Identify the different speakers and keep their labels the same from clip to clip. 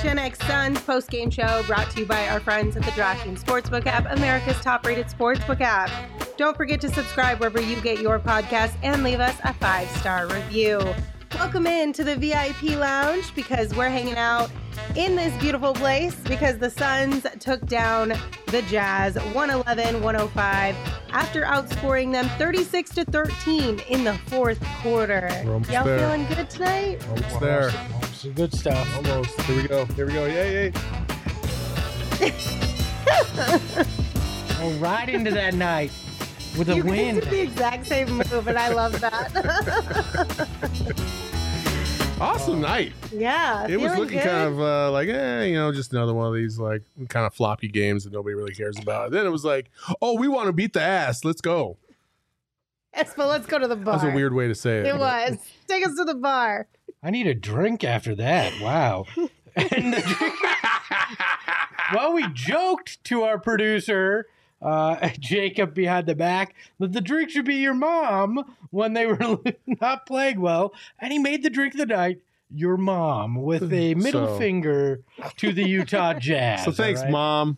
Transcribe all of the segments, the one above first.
Speaker 1: PHNX Suns post-game show brought to you by our friends at the DraftKings Sportsbook app, America's top-rated sportsbook app. Don't forget to subscribe wherever you get your podcast and leave us a 5-star review. Welcome in to the VIP Lounge because we're hanging out in this beautiful place because the Suns took down the Jazz 111-105 after outscoring them 36-13 in the fourth quarter. Y'all feeling good tonight?
Speaker 2: Almost there.
Speaker 3: Some good stuff.
Speaker 2: Almost. Here we go. Yay.
Speaker 3: Oh, right into that night with a win.
Speaker 1: You did the exact same move, and I love that.
Speaker 2: Awesome night.
Speaker 1: Yeah.
Speaker 2: It was looking kind of just another one of these like kind of floppy games that nobody really cares about. Then it was like, oh, we want to beat the ass. Let's go.
Speaker 1: Yes, but let's go to the bar.
Speaker 2: That was a weird way to say it.
Speaker 1: It was. Take us to the bar.
Speaker 3: I need a drink after that. Wow. Well, we joked to our producer, Jacob behind the back, that the drink should be your mom when they were not playing well. And he made the drink of the night, your mom, with a middle finger to the Utah Jazz.
Speaker 2: So thanks, Mom.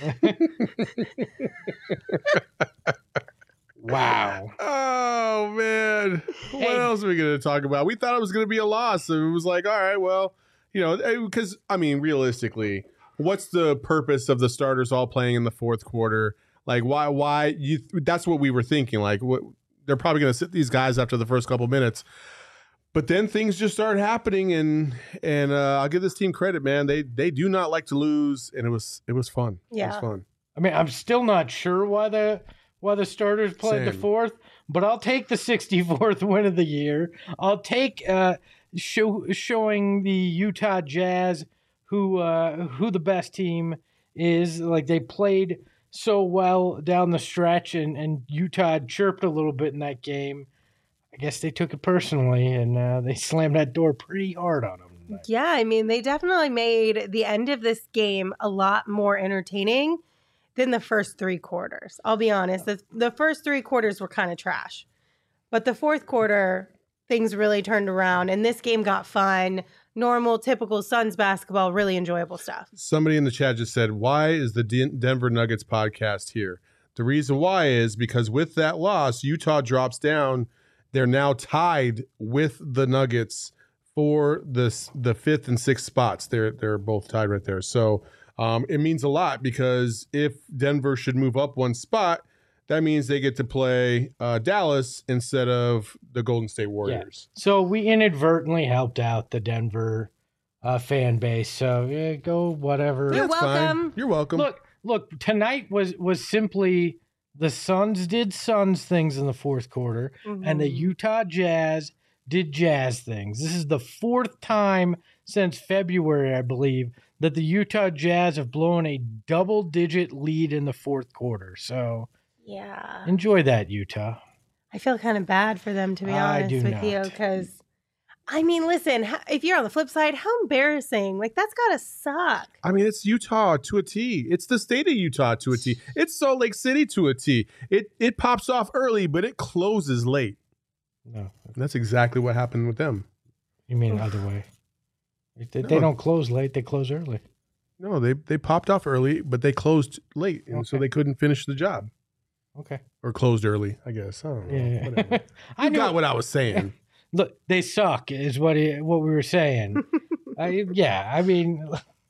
Speaker 3: Wow.
Speaker 2: Oh, man. What else are we going to talk about? We thought it was going to be a loss. So it was like, all right, well, because, realistically, what's the purpose of the starters all playing in the fourth quarter? Like, why? That's what we were thinking. Like, they're probably going to sit these guys after the first couple minutes. But then things just start happening, and I'll give this team credit, man. They do not like to lose, and it was fun.
Speaker 1: Yeah.
Speaker 2: It was fun.
Speaker 3: I mean, I'm still not sure why the starters played the fourth, but I'll take the 64th win of the year. I'll take showing the Utah Jazz who the best team is. Like, they played so well down the stretch, and Utah chirped a little bit in that game. I guess they took it personally, and they slammed that door pretty hard on them.
Speaker 1: Yeah, I mean, they definitely made the end of this game a lot more entertaining than the first three quarters. I'll be honest. The first three quarters were kind of trash. But the fourth quarter, things really turned around, and this game got fun. Normal, typical Suns basketball, really enjoyable stuff.
Speaker 2: Somebody in the chat just said, why is the Denver Nuggets podcast here? The reason why is because with that loss, Utah drops down. They're now tied with the Nuggets for the fifth and sixth spots. They're both tied right there. So it means a lot because if Denver should move up one spot, that means they get to play Dallas instead of the Golden State Warriors.
Speaker 3: Yeah. So we inadvertently helped out the Denver fan base. So go whatever.
Speaker 1: You're welcome.
Speaker 2: Fine. You're welcome.
Speaker 3: Look. Tonight was simply the Suns did Suns things in the fourth quarter, and the Utah Jazz did Jazz things. This is the fourth time since February, I believe, that the Utah Jazz have blown a double-digit lead in the fourth quarter. So,
Speaker 1: yeah,
Speaker 3: enjoy that, Utah.
Speaker 1: I feel kind of bad for them, to be honest with you, because, I mean, listen, if you're on the flip side, how embarrassing. Like, that's got to suck.
Speaker 2: I mean, it's Utah to a T. It's the state of Utah to a T. It's Salt Lake City to a T. It pops off early, but it closes late.
Speaker 3: No.
Speaker 2: That's exactly what happened with them.
Speaker 3: You mean the other way. They don't close late, they close early.
Speaker 2: No, they popped off early, but they closed late, and so they couldn't finish the job.
Speaker 3: Okay.
Speaker 2: Or closed early, I guess. I don't know.
Speaker 3: Yeah.
Speaker 2: Whatever. You got what I was saying.
Speaker 3: Look, they suck is what we were saying. I mean,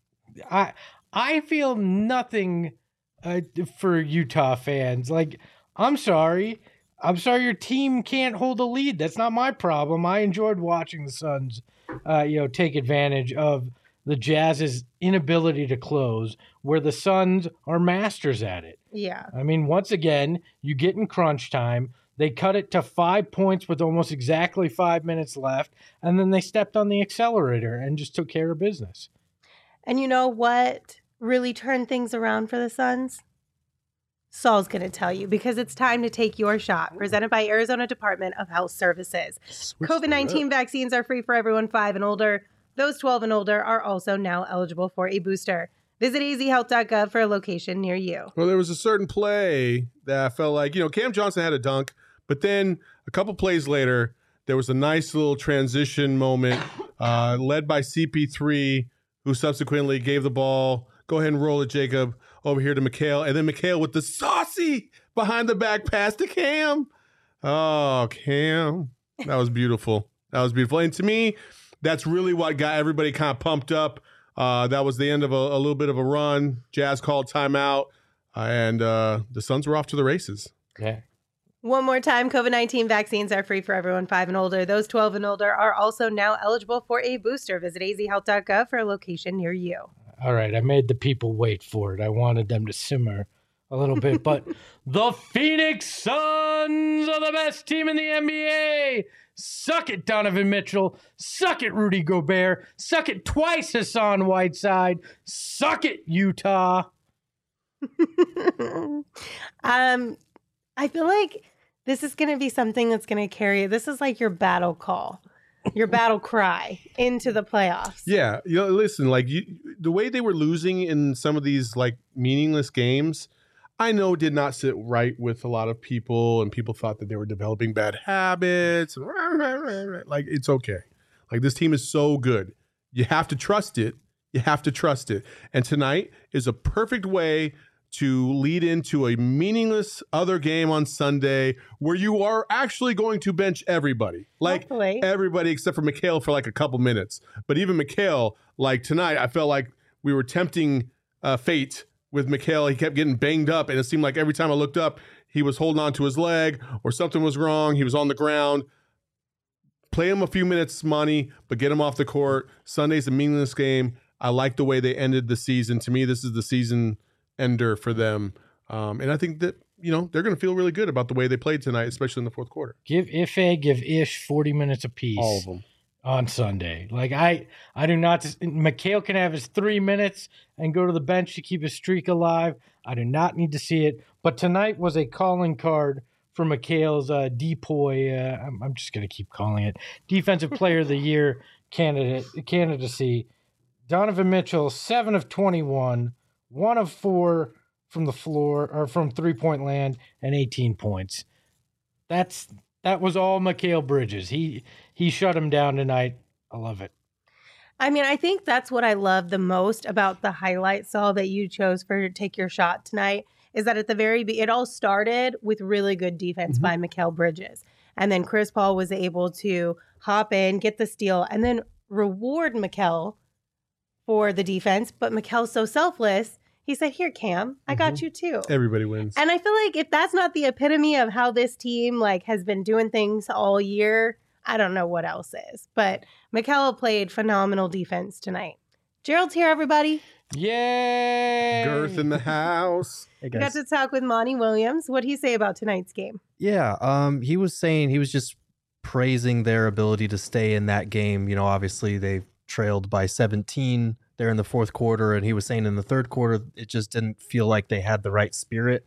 Speaker 3: I feel nothing for Utah fans. Like, I'm sorry your team can't hold a lead. That's not my problem. I enjoyed watching the Suns, take advantage of the Jazz's inability to close, where the Suns are masters at it.
Speaker 1: Yeah.
Speaker 3: I mean, once again, you get in crunch time. They cut it to 5 points with almost exactly 5 minutes left, and then they stepped on the accelerator and just took care of business.
Speaker 1: And you know what really turned things around for the Suns? Saul's going to tell you, because it's time to take your shot. Presented by Arizona Department of Health Services. COVID-19 vaccines are free for everyone 5 and older. Those 12 and older are also now eligible for a booster. Visit azhealth.gov for a location near you.
Speaker 2: Well, there was a certain play that I felt like, Cam Johnson had a dunk, but then a couple plays later, there was a nice little transition moment led by CP3, who subsequently gave the ball, go ahead and roll it, Jacob, over here to Mikal. And then Mikal with the saucy behind the back pass to Cam. Oh, Cam. That was beautiful. That was beautiful. And to me, that's really what got everybody kind of pumped up. That was the end of a little bit of a run. Jazz called timeout, and the Suns were off to the races.
Speaker 3: Yeah.
Speaker 1: One more time, COVID-19 vaccines are free for everyone 5 and older. Those 12 and older are also now eligible for a booster. Visit azhealth.gov for a location near you.
Speaker 3: All right, I made the people wait for it. I wanted them to simmer a little bit, but the Phoenix Suns are the best team in the NBA. Suck it, Donovan Mitchell. Suck it, Rudy Gobert. Suck it twice, Hassan Whiteside. Suck it, Utah.
Speaker 1: I feel like this is going to be something that's going to carry. This is like your battle call, your battle cry into the playoffs.
Speaker 2: Yeah, listen, like the way they were losing in some of these like meaningless games, I know did not sit right with a lot of people, and people thought that they were developing bad habits. Like, it's okay. Like, this team is so good. You have to trust it. You have to trust it. And tonight is a perfect way to lead into a meaningless other game on Sunday where you are actually going to bench everybody. Like,
Speaker 1: hopefully.
Speaker 2: Everybody except for Mikal for like a couple minutes. But even Mikal, like tonight, I felt like we were tempting fate with Mikal. He kept getting banged up, and it seemed like every time I looked up, he was holding on to his leg or something was wrong. He was on the ground. Play him a few minutes, Monty, but get him off the court. Sunday's a meaningless game. I like the way they ended the season. To me, this is the season ender for them. And I think that, they're going to feel really good about the way they played tonight, especially in the fourth quarter.
Speaker 3: Give Ish 40 minutes apiece.
Speaker 2: All of them.
Speaker 3: On Sunday. Like, I do not. Mikal can have his 3 minutes and go to the bench to keep his streak alive. I do not need to see it. But tonight was a calling card for Mikal's DPOY. I'm just going to keep calling it Defensive Player of the Year candidacy. Donovan Mitchell, 7 of 21, 1 of 4 from the floor or from 3-point land, and 18 points. That was all Mikal Bridges. He shut him down tonight. I love it.
Speaker 1: I mean, I think that's what I love the most about the highlight, Saul, that you chose for Take Your Shot tonight, is that at the very it all started with really good defense by Mikal Bridges. And then Chris Paul was able to hop in, get the steal, and then reward Mikal for the defense. But Mikal's so selfless. He said, here, Cam, I got you too.
Speaker 2: Everybody wins.
Speaker 1: And I feel like if that's not the epitome of how this team has been doing things all year, I don't know what else is. But Mikal played phenomenal defense tonight. Gerald's here, everybody.
Speaker 3: Yay!
Speaker 2: Girth in the house.
Speaker 4: Hey,
Speaker 1: We
Speaker 4: guys.
Speaker 1: got to talk with Monty Williams. What'd he say about tonight's game?
Speaker 4: Yeah, he was saying he was just praising their ability to stay in that game. Obviously they trailed by 17 there in the fourth quarter, and he was saying in the third quarter it just didn't feel like they had the right spirit.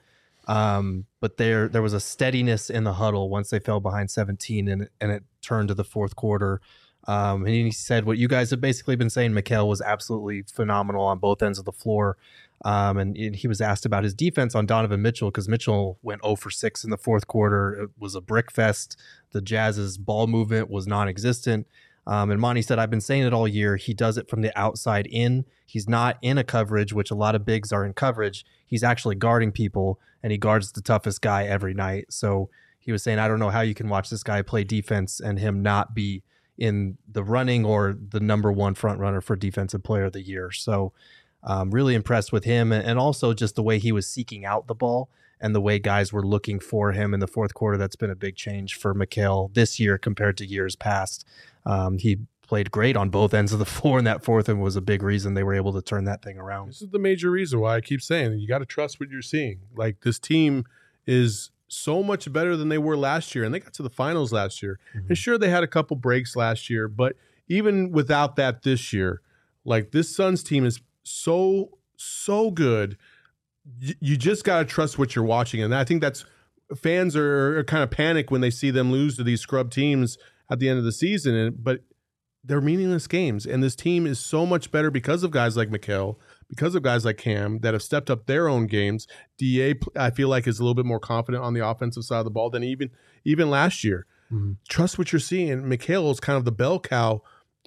Speaker 4: But there was a steadiness in the huddle once they fell behind 17, and it turned to the fourth quarter. And he said what you guys have basically been saying. Mikal was absolutely phenomenal on both ends of the floor. And he was asked about his defense on Donovan Mitchell, because Mitchell went 0 for 6 in the fourth quarter. It was a brick fest. The Jazz's ball movement was non-existent. And Monty said, I've been saying it all year. He does it from the outside in. He's not in a coverage, which a lot of bigs are in coverage. He's actually guarding people, and he guards the toughest guy every night. So he was saying, I don't know how you can watch this guy play defense and him not be in the running or the number one front runner for Defensive Player of the Year. So really impressed with him, and also just the way he was seeking out the ball and the way guys were looking for him in the fourth quarter. That's been a big change for Mikal this year compared to years past. He played great on both ends of the floor in that fourth, and was a big reason they were able to turn that thing around.
Speaker 2: This is the major reason why I keep saying you got to trust what you're seeing. Like, this team is so much better than they were last year, and they got to the finals last year. And sure, they had a couple breaks last year, but even without that this year, like, this Suns team is so good. You just got to trust what you're watching. And I think that's fans are kind of panic when they see them lose to these scrub teams at the end of the season. But they're meaningless games. And this team is so much better because of guys like Mikal, because of guys like Cam that have stepped up their own games. DA, I feel like, is a little bit more confident on the offensive side of the ball than even last year. Trust what you're seeing. Mikal is kind of the bell cow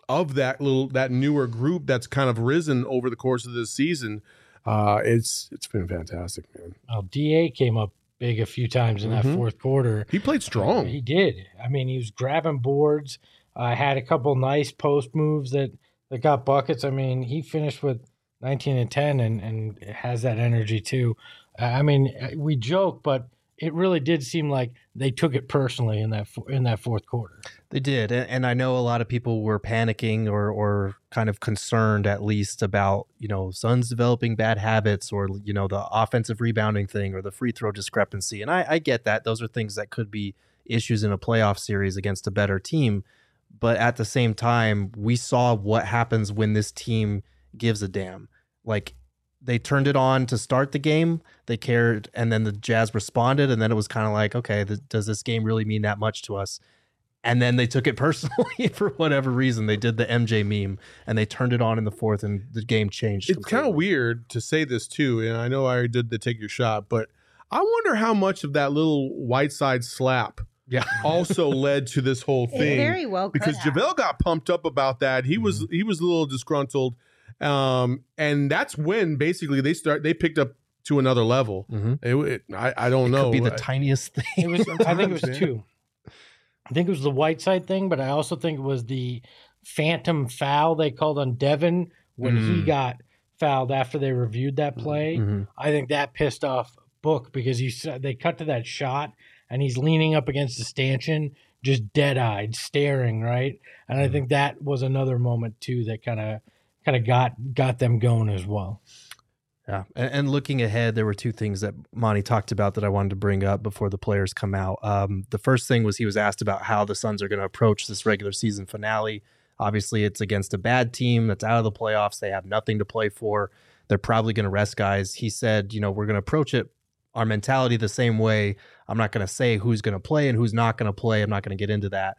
Speaker 2: of that newer group that's kind of risen over the course of this season. It's been fantastic, man.
Speaker 3: Well, DA came up big a few times in that fourth quarter.
Speaker 2: He played strong.
Speaker 3: He did. I mean, he was grabbing boards. Had a couple nice post moves that got buckets. I mean, he finished with 19 and 10 and has that energy too. I mean, we joke, but it really did seem like they took it personally in that fourth quarter.
Speaker 4: They did, and I know a lot of people were panicking or kind of concerned, at least, about Suns developing bad habits or the offensive rebounding thing or the free throw discrepancy. And I get that; those are things that could be issues in a playoff series against a better team. But at the same time, we saw what happens when this team gives a damn. Like, they turned it on to start the game. They cared, and then the Jazz responded, and then it was kind of like, okay, does this game really mean that much to us? And then they took it personally for whatever reason. They did the MJ meme, and they turned it on in the fourth, and the game changed.
Speaker 2: It's kind of weird to say this, too, and I know I already did the take your shot, but I wonder how much of that little Whiteside slap also led to this whole thing.
Speaker 1: It very well could
Speaker 2: because
Speaker 1: have.
Speaker 2: JaVale got pumped up about that. He was a little disgruntled. And that's when basically they picked up to another level. I don't know.
Speaker 4: Could be the tiniest thing.
Speaker 3: I think it was two. I think it was the Whiteside thing, but I also think it was the phantom foul they called on Devin when he got fouled after they reviewed that play. I think that pissed off Book because they cut to that shot and he's leaning up against the stanchion, just dead-eyed, staring, right? And I think that was another moment too that kind of got them going as well.
Speaker 4: Yeah, and looking ahead, there were two things that Monty talked about that I wanted to bring up before the players come out. The first thing was he was asked about how the Suns are going to approach this regular season finale. Obviously, it's against a bad team that's out of the playoffs. They have nothing to play for. They're probably going to rest guys. He said, we're going to approach it, our mentality, the same way. I'm not going to say who's going to play and who's not going to play. I'm not going to get into that.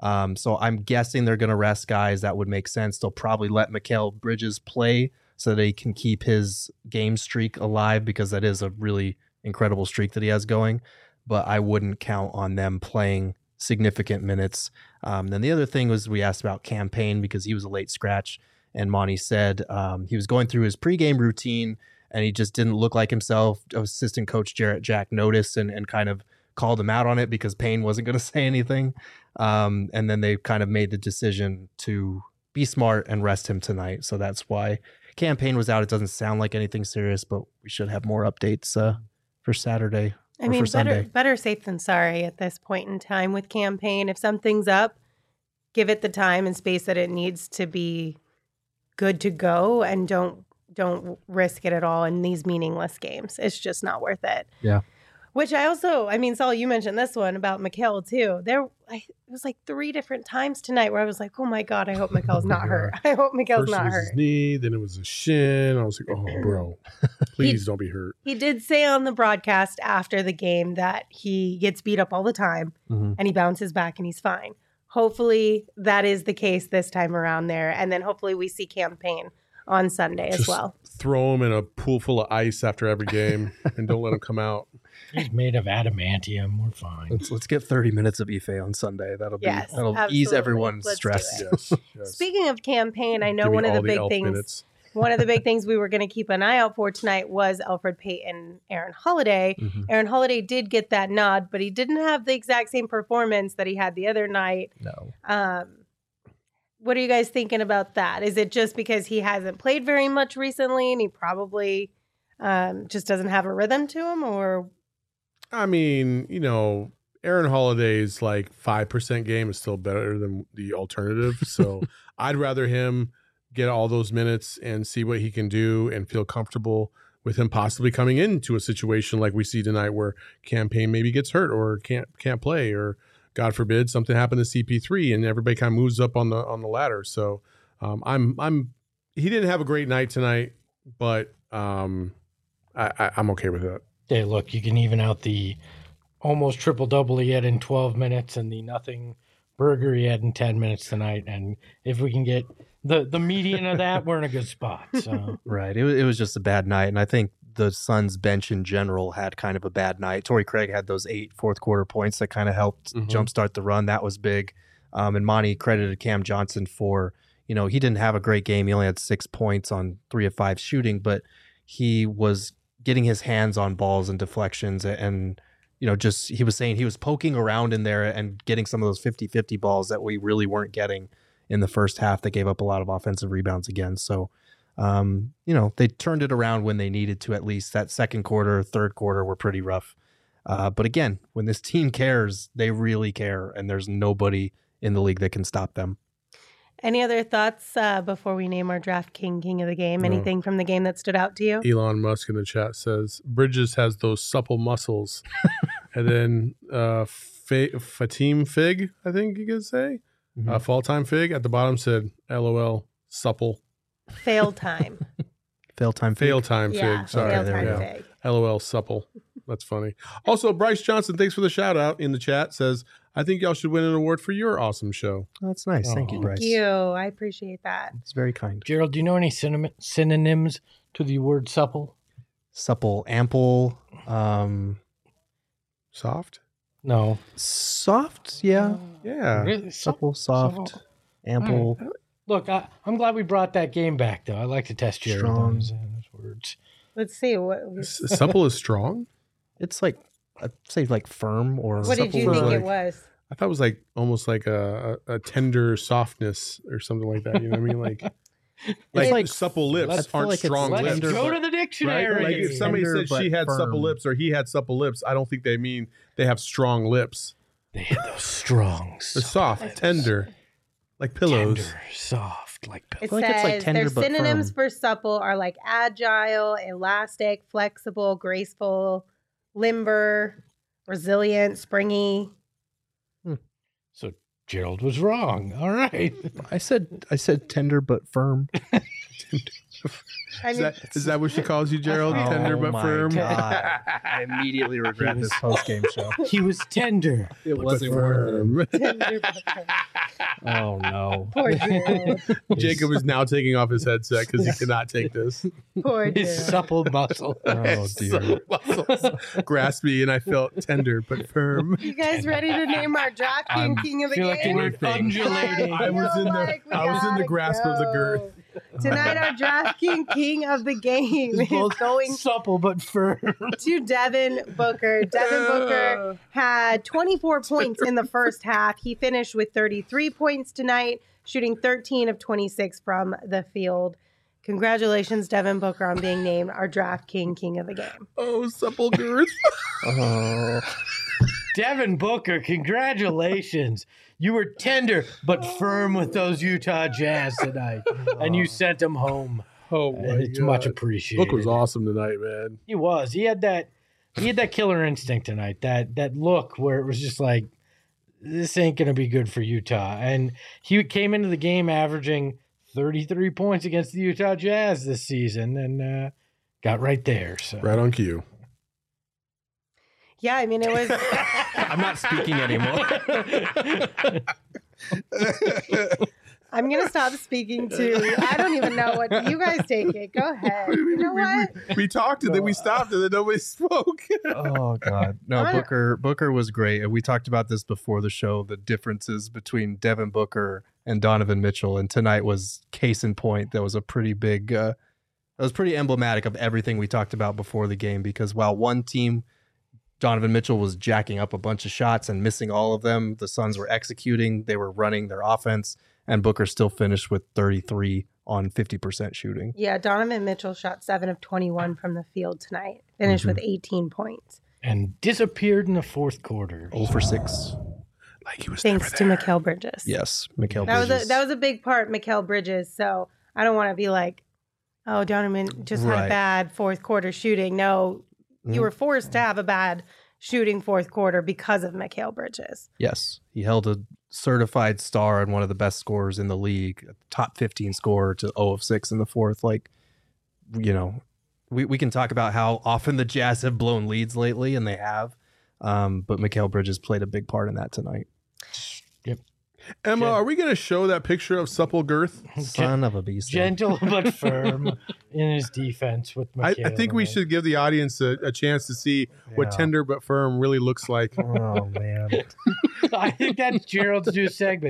Speaker 4: So I'm guessing they're going to rest guys. That would make sense. They'll probably let Mikal Bridges play so that he can keep his game streak alive, because that is a really incredible streak that he has going. But I wouldn't count on them playing significant minutes. Then the other thing was we asked about Cam Payne because he was a late scratch. And Monty said he was going through his pregame routine and he just didn't look like himself. Assistant coach Jarrett Jack noticed and kind of called him out on it because Payne wasn't going to say anything. And then they kind of made the decision to be smart and rest him tonight. So that's why Cam Payne was out. It doesn't sound like anything serious, but we should have more updates for Saturday.
Speaker 1: I mean, better safe than sorry at this point in time with Cam Payne. If something's up, give it the time and space that it needs to be good to go, and don't risk it at all in these meaningless games. It's just not worth it.
Speaker 4: Yeah.
Speaker 1: Which Saul, you mentioned this one about Mikal too. It was like 3 different times tonight where I was like, oh my God, I hope Mikal's not hurt. I hope Mikal's not hurt.
Speaker 2: First it was his knee, then it was a shin. I was like, oh, bro, please don't be hurt.
Speaker 1: He did say on the broadcast after the game that he gets beat up all the time and he bounces back and he's fine. Hopefully that is the case this time around there. And then hopefully we see Cam Payne on Sunday as well.
Speaker 2: Throw him in a pool full of ice after every game and don't let him come out.
Speaker 3: He's made of adamantium. We're fine.
Speaker 4: Let's get 30 minutes of Ife on Sunday. That'll ease everyone's stress.
Speaker 2: Yes.
Speaker 1: Speaking of Cam Payne, I know one of the big things we were going to keep an eye out for tonight was Elfrid Payton, Aaron Holiday. Aaron Holiday did get that nod, but he didn't have the exact same performance that he had the other night.
Speaker 4: No.
Speaker 1: What are you guys thinking about that? Is it just because he hasn't played very much recently and he probably just doesn't have a rhythm to him, or?
Speaker 2: I mean, Aaron Holiday's like 5% game is still better than the alternative. So I'd rather him get all those minutes and see what he can do and feel comfortable with him possibly coming into a situation like we see tonight where Cam Payne maybe gets hurt or can't play, or God forbid something happened to CP3 and everybody kind of moves up on the ladder. So he didn't have a great night tonight, but I'm okay with that.
Speaker 3: Hey, look, you can even out the almost triple-double he had in 12 minutes and the nothing burger he had in 10 minutes tonight. And if we can get the median of that, we're in a good spot. So
Speaker 4: Right. It was just a bad night. And I think the Suns bench in general had kind of a bad night. Torrey Craig had those 8 fourth-quarter points that kind of helped jumpstart the run. That was big. And Monty credited Cam Johnson for he didn't have a great game. He only had 6 points on 3 of 5 shooting, but he was getting his hands on balls and deflections and he was saying he was poking around in there and getting some of those 50-50 balls that we really weren't getting in the first half. They gave up a lot of offensive rebounds again. So, they turned it around when they needed to. At least that second quarter, third quarter were pretty rough. But again, when this team cares, they really care, and there's nobody in the league that can stop them.
Speaker 1: Any other thoughts before we name our Draft King of the game?
Speaker 2: No.
Speaker 1: Anything from the game that stood out to you?
Speaker 2: Elon Musk in the chat says Bridges has those supple muscles. And then Fatim Fig, I think you could say, Fall Time Fig at the bottom said, LOL, supple.
Speaker 1: Fail time.
Speaker 4: Fail time
Speaker 2: Fig. Sorry.
Speaker 1: fail time fig.
Speaker 2: LOL, supple. That's funny. Also, Bryce Johnson, thanks for the shout out in the chat, says, I think y'all should win an award for your awesome show.
Speaker 4: That's nice. Thank you, Bryce.
Speaker 1: Thank you. I appreciate that.
Speaker 4: It's very kind.
Speaker 3: Gerald, do you know any synonyms to the word supple?
Speaker 4: Supple, ample,
Speaker 2: Soft?
Speaker 3: No.
Speaker 4: soft. Yeah.
Speaker 2: Yeah.
Speaker 3: Really?
Speaker 4: Supple, soft, ample.
Speaker 3: Look, I'm glad we brought that game back, though. I like to test Gerald
Speaker 4: Strong.
Speaker 3: on those words.
Speaker 1: Let's see.
Speaker 2: Supple is strong?
Speaker 4: It's like, I'd say like firm or.
Speaker 1: What did you
Speaker 2: supple is
Speaker 1: think
Speaker 2: like-
Speaker 1: it was?
Speaker 2: I thought it was like almost like a tender softness or something like that. You know what I mean? Like
Speaker 4: like-
Speaker 2: supple lips
Speaker 3: let's-
Speaker 2: aren't
Speaker 4: like it's
Speaker 2: strong
Speaker 3: Let's
Speaker 2: lips.
Speaker 4: tender,
Speaker 3: go
Speaker 4: but-
Speaker 3: to the
Speaker 2: Right?
Speaker 3: dictionary.
Speaker 2: Like if somebody
Speaker 4: Tender,
Speaker 2: said she
Speaker 4: but
Speaker 2: had supple
Speaker 4: firm.
Speaker 2: lips or he had supple lips, I don't think they mean they have strong lips.
Speaker 3: They had those strong,
Speaker 2: They're soft, tender, like pillows.
Speaker 3: tender, soft, like
Speaker 1: It
Speaker 3: pillows.
Speaker 4: feel like it's like
Speaker 1: says
Speaker 4: tender
Speaker 1: their
Speaker 4: but
Speaker 1: synonyms
Speaker 4: firm.
Speaker 1: for supple are like agile, elastic, flexible, graceful, limber, resilient, springy.
Speaker 3: So Gerald was wrong. All right.
Speaker 4: I said tender but firm.
Speaker 1: I mean,
Speaker 2: Is that what she calls you, Gerald? Tender but
Speaker 4: my
Speaker 2: firm?
Speaker 4: God. I immediately regret this post game show.
Speaker 3: He was tender.
Speaker 4: It wasn't worth it. Oh no.
Speaker 1: poor Gerald.
Speaker 2: Jacob is now taking off his headset because he cannot take this.
Speaker 1: Poor
Speaker 3: His
Speaker 1: Gerald.
Speaker 3: supple muscle.
Speaker 4: Oh dear.
Speaker 2: Muscles grasped me and I felt tender but firm.
Speaker 1: You guys ready to name our draft king of the
Speaker 3: feel like
Speaker 1: game?
Speaker 3: we're undulating.
Speaker 2: I was in the grasp of the girth.
Speaker 1: Tonight, our draft king of the game is
Speaker 3: Both
Speaker 1: going
Speaker 3: supple but firm.
Speaker 1: to Devin Booker. Devin Booker had 24 points in the first half. He finished with 33 points tonight, shooting 13 of 26 from the field. Congratulations, Devin Booker, on being named our draft king of the game.
Speaker 2: Oh, supple girth.
Speaker 4: Oh.
Speaker 3: Devin Booker, congratulations. You were tender but firm with those Utah Jazz tonight, and you sent them home.
Speaker 2: Oh my
Speaker 3: And it's
Speaker 2: God.
Speaker 3: much appreciated.
Speaker 2: Book was awesome tonight, man.
Speaker 3: He was. He had that killer instinct tonight. That look where it was just like, this ain't gonna be good for Utah. And he came into the game averaging 33 points against the Utah Jazz this season, and got right there. So
Speaker 2: Right on cue.
Speaker 1: Yeah, I mean, it was.
Speaker 4: I'm not speaking anymore.
Speaker 1: I'm going to stop speaking to. I don't even know what. You guys take it. Go ahead. You know what?
Speaker 2: We talked and then we stopped and then nobody spoke.
Speaker 4: Oh God. No, Booker was great. And we talked about this before the show, the differences between Devin Booker and Donovan Mitchell. And tonight was case in point. That was a pretty big that was pretty emblematic of everything we talked about before the game, because while one team, Donovan Mitchell, was jacking up a bunch of shots and missing all of them, the Suns were executing, they were running their offense, and Booker still finished with 33 on 50% shooting.
Speaker 1: Yeah, Donovan Mitchell shot 7 of 21 from the field tonight. Finished with 18 points.
Speaker 3: and disappeared in the fourth quarter.
Speaker 4: 0 for 6.
Speaker 2: Like he was
Speaker 1: Thanks to
Speaker 2: never there.
Speaker 1: Mikal Bridges.
Speaker 4: Yes, Mikal
Speaker 1: That
Speaker 4: Bridges.
Speaker 1: was a big part, Mikal Bridges. So I don't want to be like, oh, Donovan just had a
Speaker 4: Right.
Speaker 1: bad fourth quarter shooting. No, you were forced to have a bad shooting fourth quarter because of Mikal Bridges.
Speaker 4: Yes, he held a certified star and one of the best scorers in the league, a top 15 scorer, to 0 of 6 in the fourth. Like, you know, we can talk about how often the Jazz have blown leads lately, and they have. But Mikal Bridges played a big part in that tonight.
Speaker 2: Emma, are we going to show that picture of supple girth?
Speaker 4: Son of a beast.
Speaker 3: Gentle but firm in his defense with
Speaker 2: I
Speaker 3: Mikal.
Speaker 2: think we should give the audience a chance to see what
Speaker 4: Yeah.
Speaker 2: tender but firm really looks like.
Speaker 4: Oh, man.
Speaker 3: I think that's Gerald's new segment.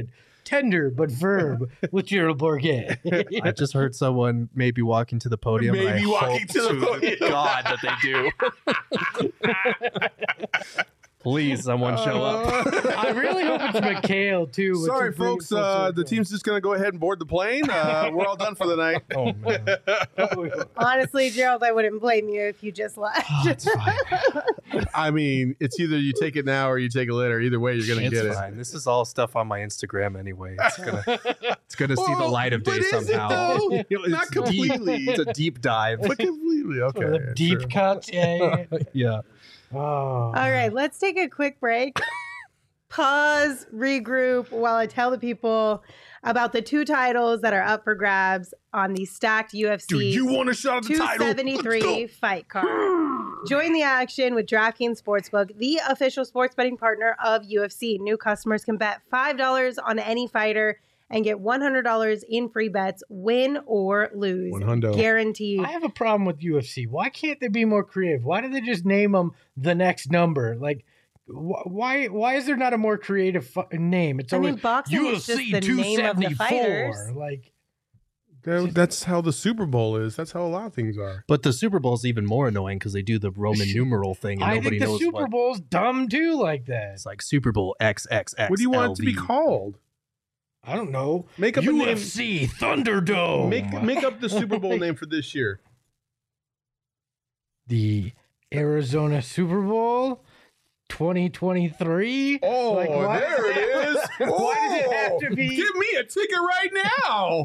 Speaker 3: tender but firm with Gerald Bourguet.
Speaker 4: I just heard someone maybe walking to the podium.
Speaker 2: Maybe
Speaker 4: and I
Speaker 2: walking
Speaker 4: hope
Speaker 2: to the podium.
Speaker 4: God that they do. Please, someone show up.
Speaker 3: I really hope it's Mikhail too. which
Speaker 2: Sorry,
Speaker 3: would bring
Speaker 2: folks.
Speaker 3: full
Speaker 2: The
Speaker 3: circle.
Speaker 2: team's just going to go ahead and board the plane. We're all done for the night.
Speaker 4: Oh man.
Speaker 1: Honestly, Gerald, I wouldn't blame you if you just left.
Speaker 3: It's fine.
Speaker 2: I mean, it's either you take it now or you take it later. Either way, you're going to
Speaker 4: It's
Speaker 2: get
Speaker 4: fine. This is all stuff on my Instagram anyway. It's gonna see the light of day
Speaker 2: but is it,
Speaker 4: somehow.
Speaker 2: though?
Speaker 4: It's
Speaker 2: Not completely.
Speaker 4: It's a deep dive.
Speaker 2: But completely. Okay.
Speaker 3: The deep
Speaker 2: true.
Speaker 3: cuts. Yeah.
Speaker 4: Yeah.
Speaker 3: Oh.
Speaker 1: All right, let's take a quick break. Pause, regroup while I tell the people about the 2 titles that are up for grabs on the stacked UFC
Speaker 2: Do you want a shot at the title?
Speaker 1: 273 fight card. Join the action with DraftKings Sportsbook, the official sports betting partner of UFC. New customers can bet $5 on any fighter and get $100 in free bets, win or lose.
Speaker 2: $100.
Speaker 1: Guaranteed.
Speaker 3: I have a problem with UFC. Why can't they be more creative? Why do they just name them the next number? Like, why is there not a more creative name? It's
Speaker 1: I
Speaker 3: always
Speaker 1: mean, boxing is just the name of the fighters.
Speaker 3: Like,
Speaker 2: That's how the Super Bowl is. That's how a lot of things are.
Speaker 4: But the Super Bowl's even more annoying because they do the Roman numeral thing and
Speaker 3: I
Speaker 4: nobody
Speaker 3: think the
Speaker 4: knows
Speaker 3: Super
Speaker 4: what.
Speaker 3: Bowl's dumb too, like that.
Speaker 4: It's like Super Bowl XXX.
Speaker 2: What do you want it to be called?
Speaker 3: I don't know.
Speaker 2: Make up a name.
Speaker 3: UFC Thunderdome.
Speaker 2: Make up the Super Bowl name for this year.
Speaker 3: The Arizona Super Bowl 2023.
Speaker 2: Oh,
Speaker 3: Like, why-
Speaker 2: there it is.
Speaker 3: Why does it have to be-
Speaker 2: Give me a ticket right now.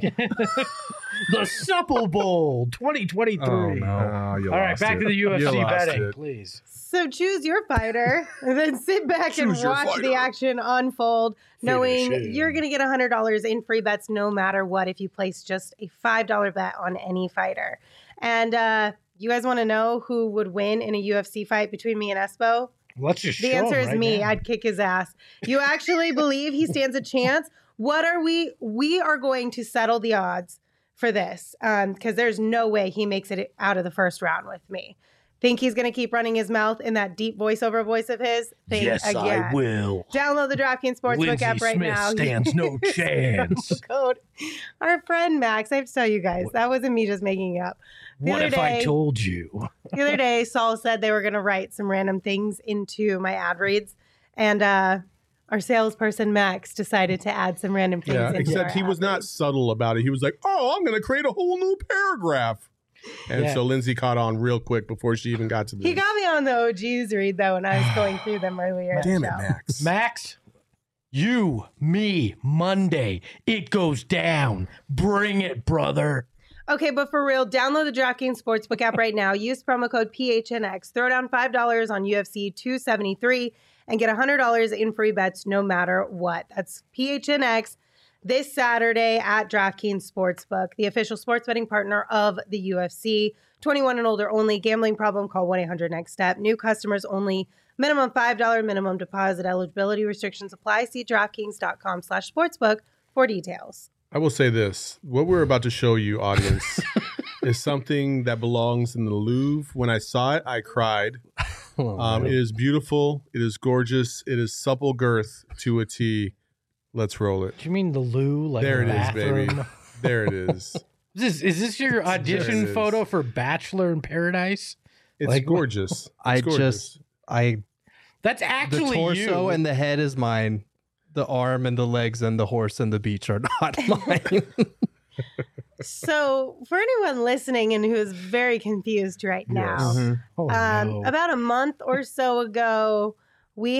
Speaker 3: The Supple Bowl 2023.
Speaker 4: Oh, no.
Speaker 2: All
Speaker 3: All right, back to the UFC betting, please.
Speaker 1: So choose your fighter and then sit back and
Speaker 2: Choose your
Speaker 1: watch
Speaker 2: fighter.
Speaker 1: the action unfold, knowing
Speaker 3: Finish him.
Speaker 1: you're going to get $100 in free bets no matter what if you place just a $5 bet on any fighter. And you guys want to know who would win in a UFC fight between me and Espo?
Speaker 3: Let's just
Speaker 1: The
Speaker 3: show
Speaker 1: answer
Speaker 3: him
Speaker 1: is
Speaker 3: right
Speaker 1: me.
Speaker 3: now.
Speaker 1: I'd kick his ass. You actually believe he stands a chance? What are we? We are going to settle the odds for this because there's no way he makes it out of the first round with me. Think he's going to keep running his mouth in that deep voiceover voice of his? Think again.
Speaker 3: will.
Speaker 1: Download the DraftKings Sportsbook
Speaker 3: Lindsey
Speaker 1: app right
Speaker 3: Smith
Speaker 1: now.
Speaker 3: stands no chance.
Speaker 1: Code. Our friend Max, I have to tell you guys, that wasn't me just making it up. The
Speaker 3: What
Speaker 1: other
Speaker 3: if I
Speaker 1: day-
Speaker 3: told you?
Speaker 1: The other day, Saul said they were going to write some random things into my ad reads, and our salesperson Max decided to add some random things.
Speaker 2: Yeah,
Speaker 1: into
Speaker 2: except
Speaker 1: our
Speaker 2: he
Speaker 1: ad
Speaker 2: was not
Speaker 1: reads.
Speaker 2: subtle about it. He was like, "Oh, I'm going to create a whole new paragraph," and
Speaker 3: Yeah.
Speaker 2: so Lindsay caught on real quick before she even got to this.
Speaker 1: He got me on the OGs read though when I was going through them earlier. in the
Speaker 2: Damn it,
Speaker 1: show.
Speaker 2: Max.
Speaker 3: Max, you, me, Monday. It goes down. Bring it, brother.
Speaker 1: Okay, but for real, download the DraftKings Sportsbook app right now. Use promo code PHNX. Throw down $5 on UFC 273 and get $100 in free bets no matter what. That's PHNX this Saturday at DraftKings Sportsbook, the official sports betting partner of the UFC. 21 and older only. Gambling problem, call 1-800-NEXT-STEP. New customers only. Minimum $5 minimum deposit. Eligibility restrictions apply. See DraftKings.com/sportsbook for details.
Speaker 2: I will say this: what we're about to show you, audience, is something that belongs in the Louvre. When I saw it, I cried. It is beautiful. It is gorgeous. It is supple girth to a T. Let's roll it.
Speaker 3: Do you mean the loo? Like
Speaker 2: There
Speaker 3: the
Speaker 2: it is,
Speaker 3: bathroom?
Speaker 2: baby. There it is.
Speaker 3: Is this your audition
Speaker 2: There it is.
Speaker 3: photo for Bachelor in Paradise?
Speaker 2: It's
Speaker 3: Like,
Speaker 2: gorgeous. It's
Speaker 4: I
Speaker 2: gorgeous.
Speaker 3: That's
Speaker 4: the
Speaker 3: actually
Speaker 4: torso
Speaker 3: you.
Speaker 4: and the head is mine. The arm and the legs and the horse and the beach are not mine.
Speaker 1: So, for anyone listening and who is very confused right now,
Speaker 2: Yes.
Speaker 4: Mhm.
Speaker 3: Oh, no.
Speaker 1: about a month or so ago, we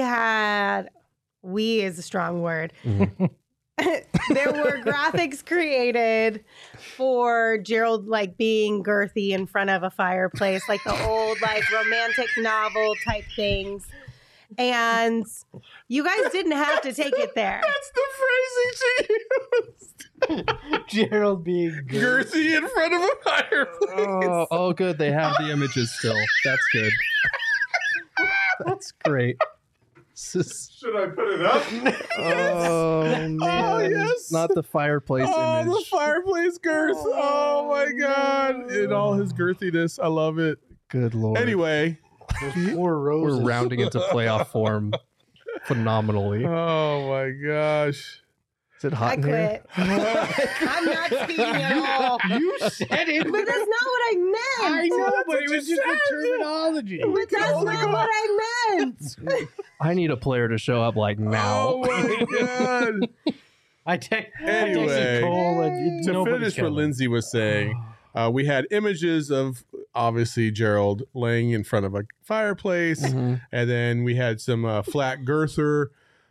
Speaker 1: is a strong word. There were graphics created for Gerald like being girthy in front of a fireplace, like the old like romantic novel type things. And you guys didn't have to take it there.
Speaker 2: That's the phrasing she used.
Speaker 3: Gerald being good.
Speaker 2: Girthy in front of a fireplace.
Speaker 4: Oh, good. They have the images still. That's good. That's great.
Speaker 2: Should I put it up?
Speaker 4: Oh, man.
Speaker 2: yes.
Speaker 4: Not the fireplace
Speaker 2: Oh, the
Speaker 4: image.
Speaker 2: fireplace girth. Oh, my God. In all his girthiness. I love it.
Speaker 4: Good Lord.
Speaker 2: Anyway.
Speaker 3: Those poor roses.
Speaker 4: We're rounding into playoff form phenomenally.
Speaker 2: Oh, my gosh.
Speaker 4: Is it hot
Speaker 1: I
Speaker 4: in here?
Speaker 1: quit. I'm not speaking at all.
Speaker 3: You said it.
Speaker 1: But that's not what I meant.
Speaker 3: I know,
Speaker 2: That's
Speaker 3: but
Speaker 2: what
Speaker 3: it
Speaker 2: you
Speaker 3: was just
Speaker 2: said.
Speaker 3: a terminology.
Speaker 1: But that's not what I meant.
Speaker 4: I need a player to show up like now.
Speaker 2: Oh my god!
Speaker 3: I take
Speaker 2: Anyway,
Speaker 3: Cole
Speaker 2: To
Speaker 3: nobody's
Speaker 2: finish what
Speaker 3: coming.
Speaker 2: Lindsay was saying, we had images of obviously Gerald laying in front of a fireplace,
Speaker 4: Mhm.
Speaker 2: and then we had some flat girth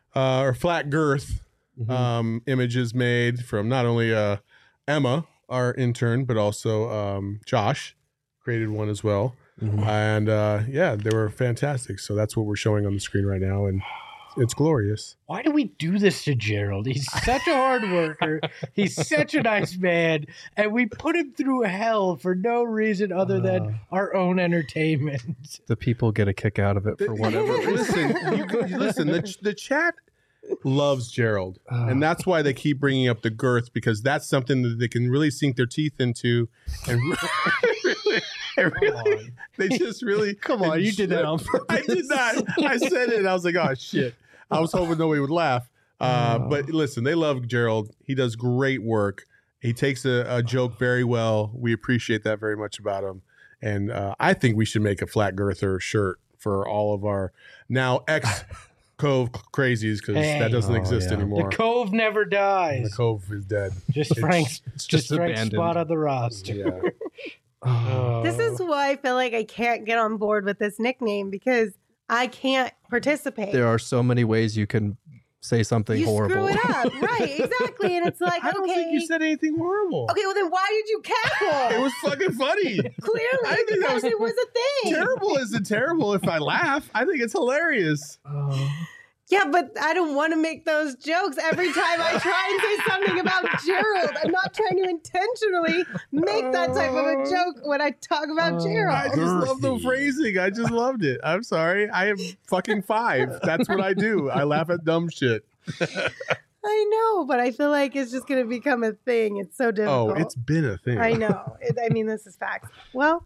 Speaker 2: images made from not only Emma, our intern, but also Josh created one as well.
Speaker 4: Mhm.
Speaker 2: And yeah, they were fantastic. So that's what we're showing on the screen right now, and it's glorious.
Speaker 3: Why do we do this to Gerald? He's such a hard worker. He's such a nice man, and we put him through hell for no reason other than our own entertainment.
Speaker 4: The people get a kick out of it for whatever reason.
Speaker 2: Listen. The chat loves Gerald, and that's why they keep bringing up the girth, because that's something that they can really sink their teeth into, and really, they just really
Speaker 4: Come on, you did that on purpose.
Speaker 2: I did not. I said it, and I was like, oh shit. I was hoping nobody would laugh. But listen, they love Gerald. He does great work. He takes a joke very well. We appreciate that very much about him. And I think we should make a flat girther shirt for all of our now ex-Cove crazies, because that doesn't exist anymore.
Speaker 3: The Cove never dies.
Speaker 2: The Cove is dead.
Speaker 3: Just Frank's,
Speaker 4: it's
Speaker 3: just
Speaker 4: just
Speaker 3: Frank's
Speaker 4: abandoned.
Speaker 3: spot on the roster.
Speaker 2: Yeah.
Speaker 3: Oh.
Speaker 1: This is why I feel like I can't get on board with this nickname, because I can't participate.
Speaker 4: There are so many ways you can say something
Speaker 1: you
Speaker 4: horrible.
Speaker 1: screw it up. Right, exactly. And it's like,
Speaker 2: I don't
Speaker 1: okay.
Speaker 2: think you said anything horrible.
Speaker 1: Okay, well then why did you cackle?
Speaker 2: It was fucking funny.
Speaker 1: Clearly,
Speaker 2: I think that
Speaker 1: because it was a thing.
Speaker 2: Terrible isn't terrible if I laugh. I think it's hilarious.
Speaker 1: Yeah, but I don't want to make those jokes every time I try and say something about Gerald. I'm not trying to intentionally make that type of a joke when I talk about
Speaker 2: I
Speaker 1: Gerald.
Speaker 2: just love the phrasing. I just loved it. I'm sorry. I am fucking 5. That's what I do. I laugh at dumb shit.
Speaker 1: I know, but I feel like it's just going to become a thing. It's so
Speaker 2: Oh,
Speaker 1: difficult.
Speaker 2: it's been a thing.
Speaker 1: I know. I mean, this is facts. Well,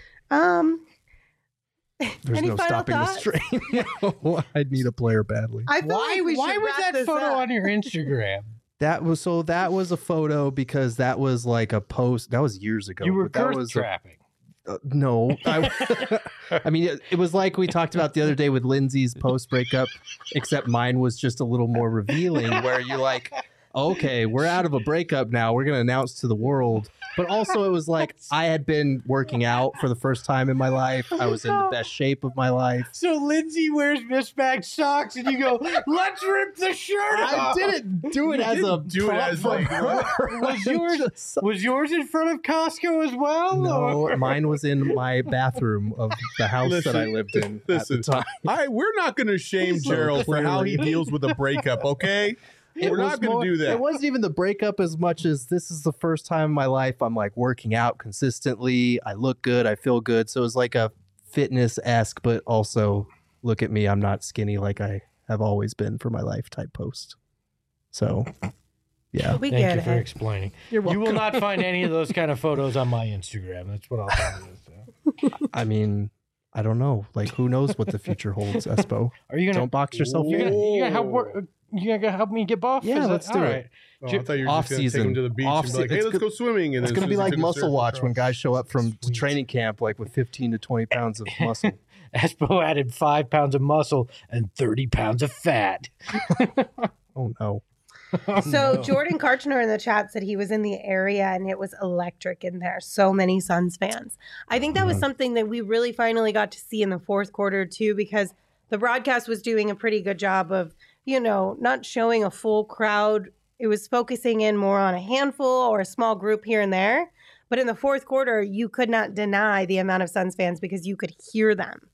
Speaker 4: There's
Speaker 1: any
Speaker 4: no
Speaker 1: final
Speaker 4: stopping
Speaker 1: thoughts?
Speaker 4: this train. I'd need a player badly.
Speaker 1: I feel like we
Speaker 3: Why
Speaker 1: should
Speaker 3: was
Speaker 1: wrap
Speaker 3: that
Speaker 1: this
Speaker 3: photo
Speaker 1: up.
Speaker 3: on your Instagram?
Speaker 4: That was a photo because that was like a post. That was years ago.
Speaker 3: You were
Speaker 4: but that
Speaker 3: girth
Speaker 4: was
Speaker 3: trapping.
Speaker 4: no. I mean, it was like we talked about the other day with Lindsay's post breakup, except mine was just a little more revealing, where you're like, okay, we're out of a breakup now. We're gonna announce to the world. But also, it was like I had been working out for the first time in my life. I was in the best shape of my life.
Speaker 3: So Lindsay wears mismatched socks, and you go, "Let's rip the shirt
Speaker 4: I
Speaker 3: off."
Speaker 4: didn't do it as a
Speaker 2: do it
Speaker 4: prop
Speaker 2: as
Speaker 4: for
Speaker 2: like-
Speaker 4: her.
Speaker 3: Was yours in front of Costco as well?
Speaker 4: No,
Speaker 3: or-
Speaker 4: mine was in my bathroom of the house that I lived in
Speaker 2: Listen,
Speaker 4: at the time.
Speaker 2: we're not going to shame
Speaker 4: So
Speaker 2: Gerald for how he
Speaker 4: clearly.
Speaker 2: deals with a breakup, okay? We're
Speaker 4: was
Speaker 2: not going to do that.
Speaker 4: It wasn't even the breakup as much as this is the first time in my life I'm like working out consistently. I look good. I feel good. So it was like a fitness-esque, but also look at me. I'm not skinny like I have always been for my life type post. So, yeah.
Speaker 1: We
Speaker 3: Thank
Speaker 1: get
Speaker 3: you for
Speaker 1: it.
Speaker 3: explaining.
Speaker 4: You're
Speaker 3: You will
Speaker 4: welcome.
Speaker 3: not find any of those kind of photos on my Instagram. That's what I'll tell you.
Speaker 4: I mean, I don't know. Like, who knows what the future holds, Espo?
Speaker 3: Are you gonna?
Speaker 4: Don't box yourself
Speaker 3: You're
Speaker 4: in.
Speaker 3: you gonna help me get buff?
Speaker 4: Yeah,
Speaker 3: Is
Speaker 4: let's
Speaker 3: that-
Speaker 4: do
Speaker 3: all
Speaker 4: it.
Speaker 3: right.
Speaker 2: Oh, I thought you were
Speaker 4: Off
Speaker 2: just going to take
Speaker 4: season.
Speaker 2: him to the beach
Speaker 4: Off
Speaker 2: and be like,
Speaker 4: se-
Speaker 2: hey,
Speaker 4: it's
Speaker 2: let's
Speaker 4: go-
Speaker 2: go swimming. And
Speaker 4: It's
Speaker 2: then
Speaker 4: going to be
Speaker 2: as soon as
Speaker 4: like
Speaker 2: he's
Speaker 4: muscle
Speaker 2: surf
Speaker 4: watch when
Speaker 2: across-
Speaker 4: guys show up from
Speaker 3: Sweet.
Speaker 4: training camp like with 15 to 20 pounds of muscle.
Speaker 3: Espo added 5 pounds of muscle and 30 pounds of fat.
Speaker 4: Oh, no.
Speaker 1: So
Speaker 3: No.
Speaker 1: Jordan Karchner in the chat said he was in the area and it was electric in there. So many Suns fans. I think that was something that we really finally got to see in the fourth quarter too, because the broadcast was doing a pretty good job of, not showing a full crowd. It was focusing in more on a handful or a small group here and there. But in the fourth quarter, you could not deny the amount of Suns fans because you could hear them.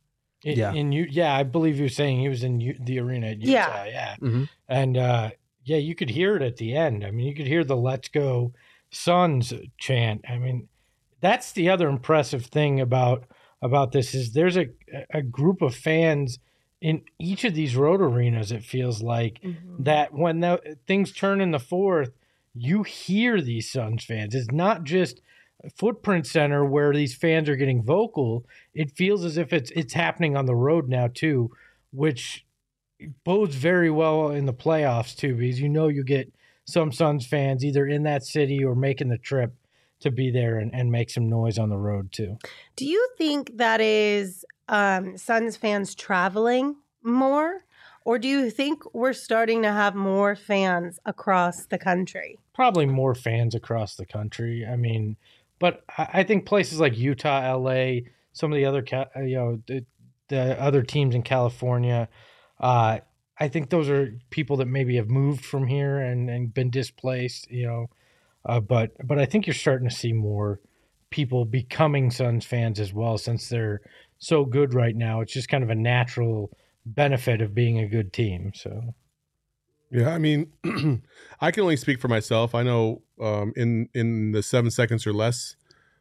Speaker 3: I believe you were saying he was in the arena at Utah. Yeah.
Speaker 4: Mhm.
Speaker 3: And you could hear it at the end. I mean, you could hear the "Let's Go Suns" chant. I mean, that's the other impressive thing about this is there's a group of fans in each of these road arenas. It feels like that when things turn in the fourth, you hear these Suns fans. It's not just Footprint Center where these fans are getting vocal. It feels as if it's happening on the road now too, which bodes very well in the playoffs too, because you get some Suns fans either in that city or making the trip to be there and make some noise on the road too.
Speaker 1: Do you think that is Suns fans traveling more? Or do you think we're starting to have more fans across the country?
Speaker 3: Probably more fans across the country. I mean, but I think places like Utah, LA, some of the other, the other teams in California, I think those are people that maybe have moved from here and been displaced, but I think you're starting to see more people becoming Suns fans as well, since they're so good right now. It's just kind of a natural benefit of being a good team. So
Speaker 2: yeah, I mean, I can only speak for myself. I know in the 7 seconds or less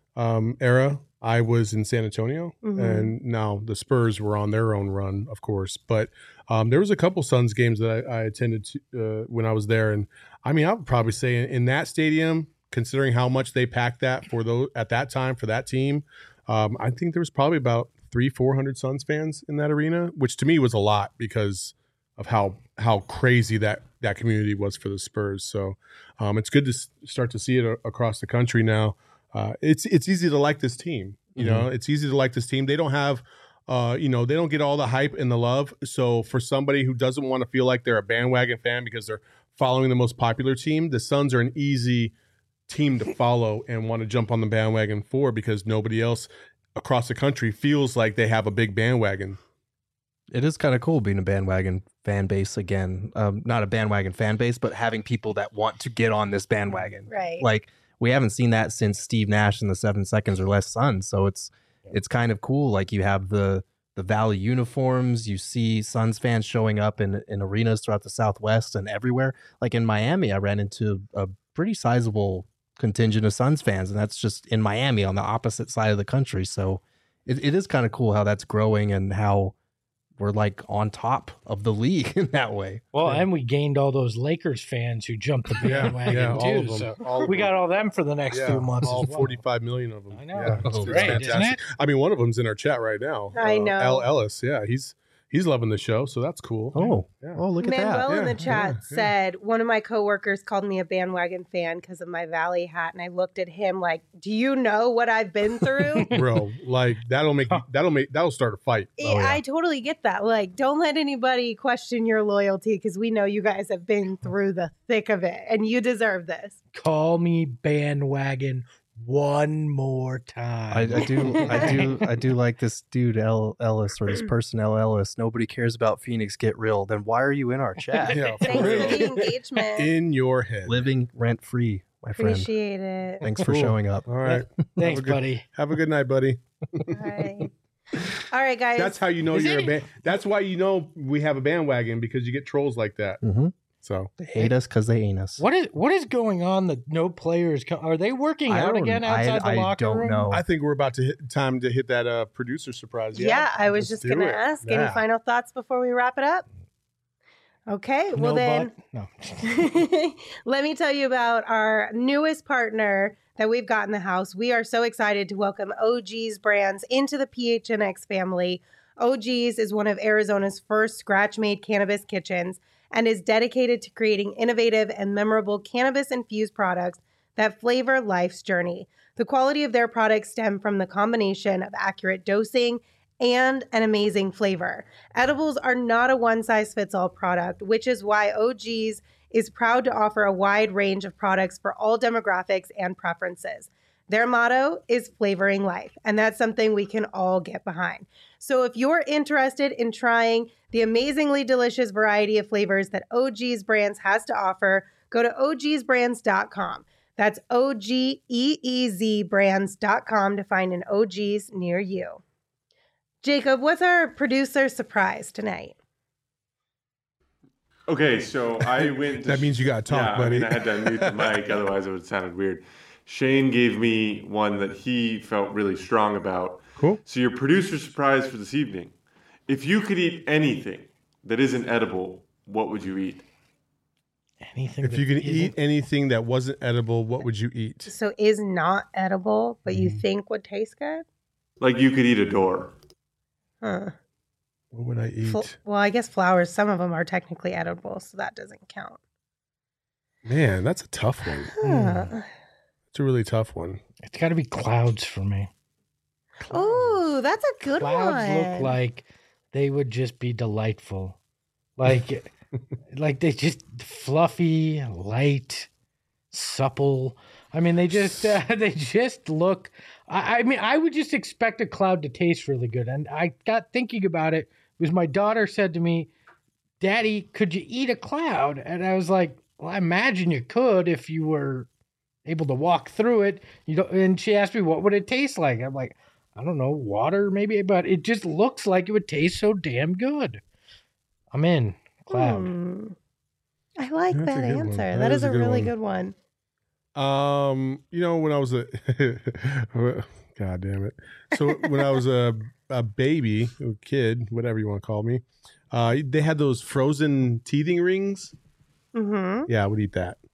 Speaker 2: era, I was in San Antonio, and now the Spurs were on their own run, of course. But there was a couple Suns games that I attended when I was there, and I mean, I would probably say in that stadium, considering how much they packed that for those at that time for that team, I think there was probably about 300-400 Suns fans in that arena, which to me was a lot because of how crazy that community was for the Spurs. So it's good to start to see it across the country now. It's easy to like this team. You know, it's easy to like this team. They don't have, they don't get all the hype and the love. So for somebody who doesn't want to feel like they're a bandwagon fan because they're following the most popular team, the Suns are an easy team to follow and want to jump on the bandwagon for, because nobody else across the country feels like they have a big bandwagon.
Speaker 4: It is kind of cool being a bandwagon fan base again. Not a bandwagon fan base, but having people that want to get on this bandwagon.
Speaker 1: Right.
Speaker 4: Like, we haven't seen that since Steve Nash and the 7 seconds or less Suns. So it's kind of cool. Like, you have the Valley uniforms. You see Suns fans showing up in arenas throughout the Southwest and everywhere. Like in Miami, I ran into a pretty sizable contingent of Suns fans, and that's just in Miami on the opposite side of the country. So it is kind of cool how that's growing and how we're like on top of the league in that way.
Speaker 3: Well, and we gained all those Lakers fans who jumped the bandwagon too. So we got all them for the next few months.
Speaker 2: All
Speaker 3: as well.
Speaker 2: 45 million of them.
Speaker 3: I know.
Speaker 2: Yeah,
Speaker 3: It's
Speaker 2: it's
Speaker 3: great,
Speaker 2: fantastic.
Speaker 3: isn't it?
Speaker 2: I mean, one of them's in our chat right now.
Speaker 1: I know.
Speaker 2: L. Ellis. Yeah, he's loving the show, so that's cool.
Speaker 4: Look at
Speaker 1: Manuel
Speaker 4: that.
Speaker 1: in the chat said, one of my coworkers called me a bandwagon fan because of my Valley hat, and I looked at him like, do you know what I've been through?
Speaker 2: Bro, like that'll start a fight.
Speaker 1: I totally get that. Like, don't let anybody question your loyalty, because we know you guys have been through the thick of it, and you deserve this.
Speaker 3: Call me bandwagon one more time.
Speaker 4: I do like this dude L. Ellis, or this person L. Ellis. Nobody cares about Phoenix. Get real. Then why are you in our chat?
Speaker 2: Yeah,
Speaker 1: Thanks for the engagement.
Speaker 2: in your head.
Speaker 4: Living rent free, my friend.
Speaker 1: Appreciate it.
Speaker 4: Thanks for showing up.
Speaker 2: All right.
Speaker 3: Thanks, buddy.
Speaker 2: Have a good night, buddy.
Speaker 1: All right, guys.
Speaker 2: That's how you know you're a band. That's why you know we have a bandwagon, because you get trolls like that.
Speaker 4: Mm-hmm.
Speaker 2: So
Speaker 4: they hate us because they ain't us.
Speaker 3: What is going on? That no players are they working out again outside the locker room?
Speaker 4: I don't know.
Speaker 2: I think we're about to hit that producer surprise.
Speaker 1: Yeah, I was just going to ask. Any final thoughts before we wrap it up? Okay, well let me tell you about our newest partner that we've got in the house. We are so excited to welcome OG's Brands into the PHNX family. OG's is one of Arizona's first scratch-made cannabis kitchens and is dedicated to creating innovative and memorable cannabis-infused products that flavor life's journey. The quality of their products stem from the combination of accurate dosing and an amazing flavor. Edibles are not a one-size-fits-all product, which is why OG's is proud to offer a wide range of products for all demographics and preferences. Their motto is flavoring life, and that's something we can all get behind. So if you're interested in trying the amazingly delicious variety of flavors that OG's Brands has to offer, go to ogsbrands.com. That's OGEEZ brands.com to find an OG's near you. Jacob, what's our producer surprise tonight?
Speaker 5: Okay, so I went.
Speaker 2: That means you got to talk, buddy.
Speaker 5: I mean, I had to unmute the mic, otherwise it would have sounded weird. Shane gave me one that he felt really strong about.
Speaker 2: Cool.
Speaker 5: So your producer surprise for this evening. If you could eat anything that isn't edible, what would you eat?
Speaker 3: Anything.
Speaker 2: If you could eat anything that wasn't edible, what would you eat?
Speaker 1: So is not edible, but you think would taste good?
Speaker 5: Like you could eat a door.
Speaker 1: Huh.
Speaker 2: What would I eat?
Speaker 1: Well, I guess flowers, some of them are technically edible, so that doesn't count.
Speaker 2: Man, that's a tough one. It's a really tough one.
Speaker 3: It's got to be clouds for me.
Speaker 1: Oh, that's a good one.
Speaker 3: Clouds look like they would just be delightful. Like they just fluffy, light, supple. I mean, they just look. I mean, I would just expect a cloud to taste really good. And I got thinking about it because my daughter said to me, "Daddy, could you eat a cloud?" And I was like, "Well, I imagine you could if you were able to walk through it." And she asked me, "What would it taste like?" I'm like, "I don't know, water maybe," but it just looks like it would taste so damn good. I'm in. Cloud.
Speaker 1: I like that answer. That is a really good one.
Speaker 2: When I was God damn it. So when I was a baby, a kid, whatever you want to call me, they had those frozen teething rings. Mm-hmm. Yeah, I would eat that.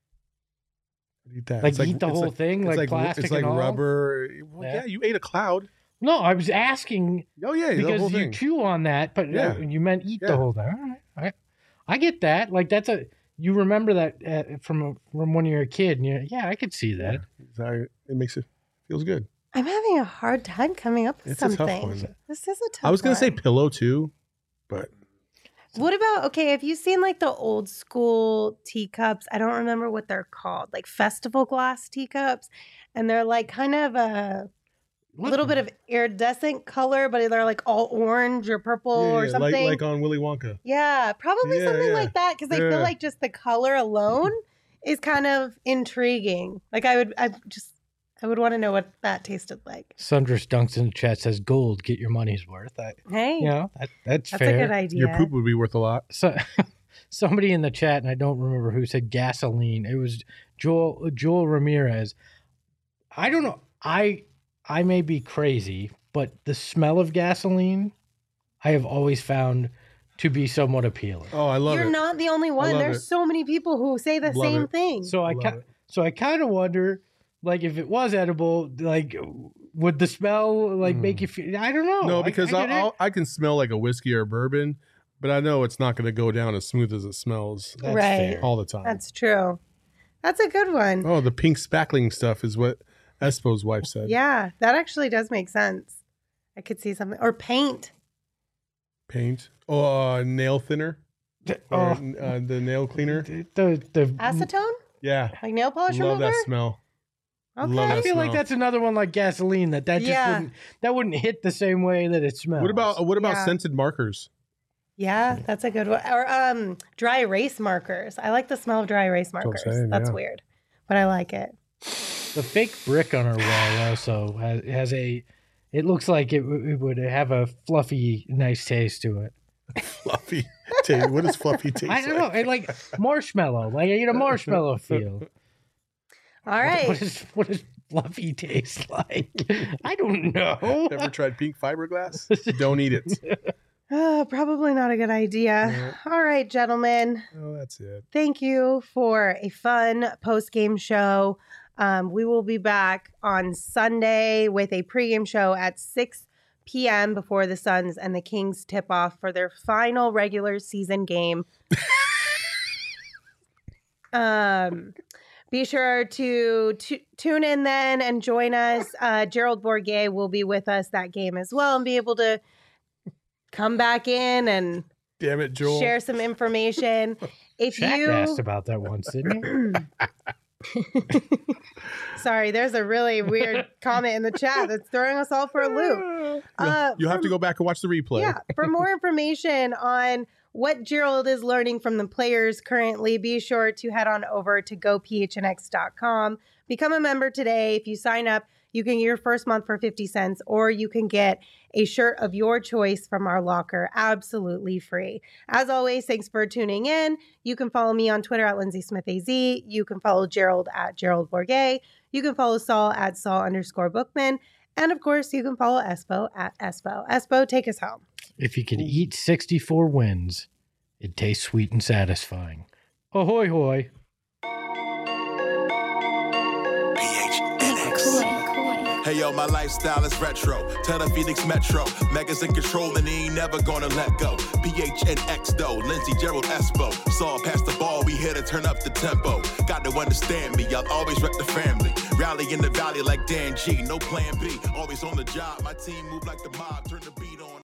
Speaker 3: Like eat the whole thing, like plastic.
Speaker 2: It's like
Speaker 3: and all?
Speaker 2: rubber. Well, yeah, you ate a cloud.
Speaker 3: No, I was asking.
Speaker 2: Oh yeah,
Speaker 3: because
Speaker 2: the whole
Speaker 3: you
Speaker 2: thing.
Speaker 3: chew on that, but you meant eat the whole thing. All right, I get that. Like you remember that from when you were a kid, and I could see that.
Speaker 2: Yeah, it feels good.
Speaker 1: I'm having a hard time coming up with
Speaker 2: It's
Speaker 1: something.
Speaker 2: A tough one.
Speaker 1: This is a tough one.
Speaker 2: I was gonna say pillow too, but.
Speaker 1: What about, have you seen like the old school teacups? I don't remember what they're called, like festival glass teacups. And they're like kind of a little bit of iridescent color, but they're like all orange or purple or something.
Speaker 2: Like on Willy Wonka.
Speaker 1: Yeah, probably something like that. Because I feel like just the color alone is kind of intriguing. Like I would want to know what that tasted like.
Speaker 3: Sundress Dunks in the chat says, "Gold, get your money's worth." That's fair.
Speaker 1: A good idea.
Speaker 2: Your poop would be worth a lot.
Speaker 3: So, somebody in the chat, and I don't remember who, said gasoline. It was Joel Ramirez. I don't know. I may be crazy, but the smell of gasoline, I have always found to be somewhat appealing.
Speaker 2: Oh, I love it.
Speaker 1: You're not the only one. There's so many people who say the same thing.
Speaker 3: So I kind of wonder. Like, if it was edible, like, would the smell, like, make you feel... I don't know.
Speaker 2: No, because I can smell, like, a whiskey or a bourbon, but I know it's not going to go down as smooth as it smells all the time.
Speaker 1: That's true. That's a good one.
Speaker 2: Oh, the pink spackling stuff is what Espo's wife said.
Speaker 1: Yeah, that actually does make sense. I could see something. Or paint.
Speaker 2: Paint? Oh, nail thinner? The nail cleaner?
Speaker 3: The
Speaker 1: acetone?
Speaker 2: Yeah.
Speaker 1: Like nail polish remover?
Speaker 2: Love that smell.
Speaker 1: Okay.
Speaker 3: I feel like that's another one like gasoline that wouldn't hit the same way that it smells.
Speaker 2: What about scented markers?
Speaker 1: Yeah, that's a good one. Or dry erase markers. I like the smell of dry erase markers. That's weird, but I like it.
Speaker 3: The fake brick on our wall also has a. It looks like it would have a fluffy, nice taste to it.
Speaker 2: Fluffy taste. What does fluffy taste?
Speaker 3: I don't know. It like marshmallow. Like I get a marshmallow feel.
Speaker 1: All right.
Speaker 3: What does fluffy taste like? I don't know.
Speaker 2: Ever tried pink fiberglass? Don't eat it.
Speaker 1: Probably not a good idea. All right, gentlemen.
Speaker 2: Oh, that's it.
Speaker 1: Thank you for a fun post-game show. We will be back on Sunday with a pregame show at 6 p.m. before the Suns and the Kings tip off for their final regular season game. Be sure to tune in then and join us. Gerald Bourguet will be with us that game as well and be able to come back in and
Speaker 2: damn it, Joel,
Speaker 1: share some information. If
Speaker 3: Shaq
Speaker 1: you
Speaker 3: asked about that once, didn't he?
Speaker 1: Sorry, there's a really weird comment in the chat that's throwing us all for a loop.
Speaker 2: You have to go back and watch the replay.
Speaker 1: Yeah, for more information on what Gerald is learning from the players currently, be sure to head on over to gophnx.com. Become a member today. If you sign up, you can get your first month for 50 cents, or you can get a shirt of your choice from our locker absolutely free. As always, thanks for tuning in. You can follow me on Twitter at LindsaySmithAZ. You can follow Gerald at Gerald Bourguet. You can follow Saul at Saul_Bookman. And of course, you can follow Espo at Espo. Espo, take us home.
Speaker 3: If you could eat 64 wins, it tastes sweet and satisfying. Ahoy, hoy.
Speaker 6: Hey yo, my lifestyle is retro. Tell the Phoenix Metro. Megas in control and he ain't never gonna let go. PHNX though. Lindsay, Gerald, Espo. Saw past the ball, we hit a turn up the tempo. Got to understand me, I'll always rep the family. Rally in the valley like Dan G, no plan B. Always on the job, my team move like the mob, turn the beat on.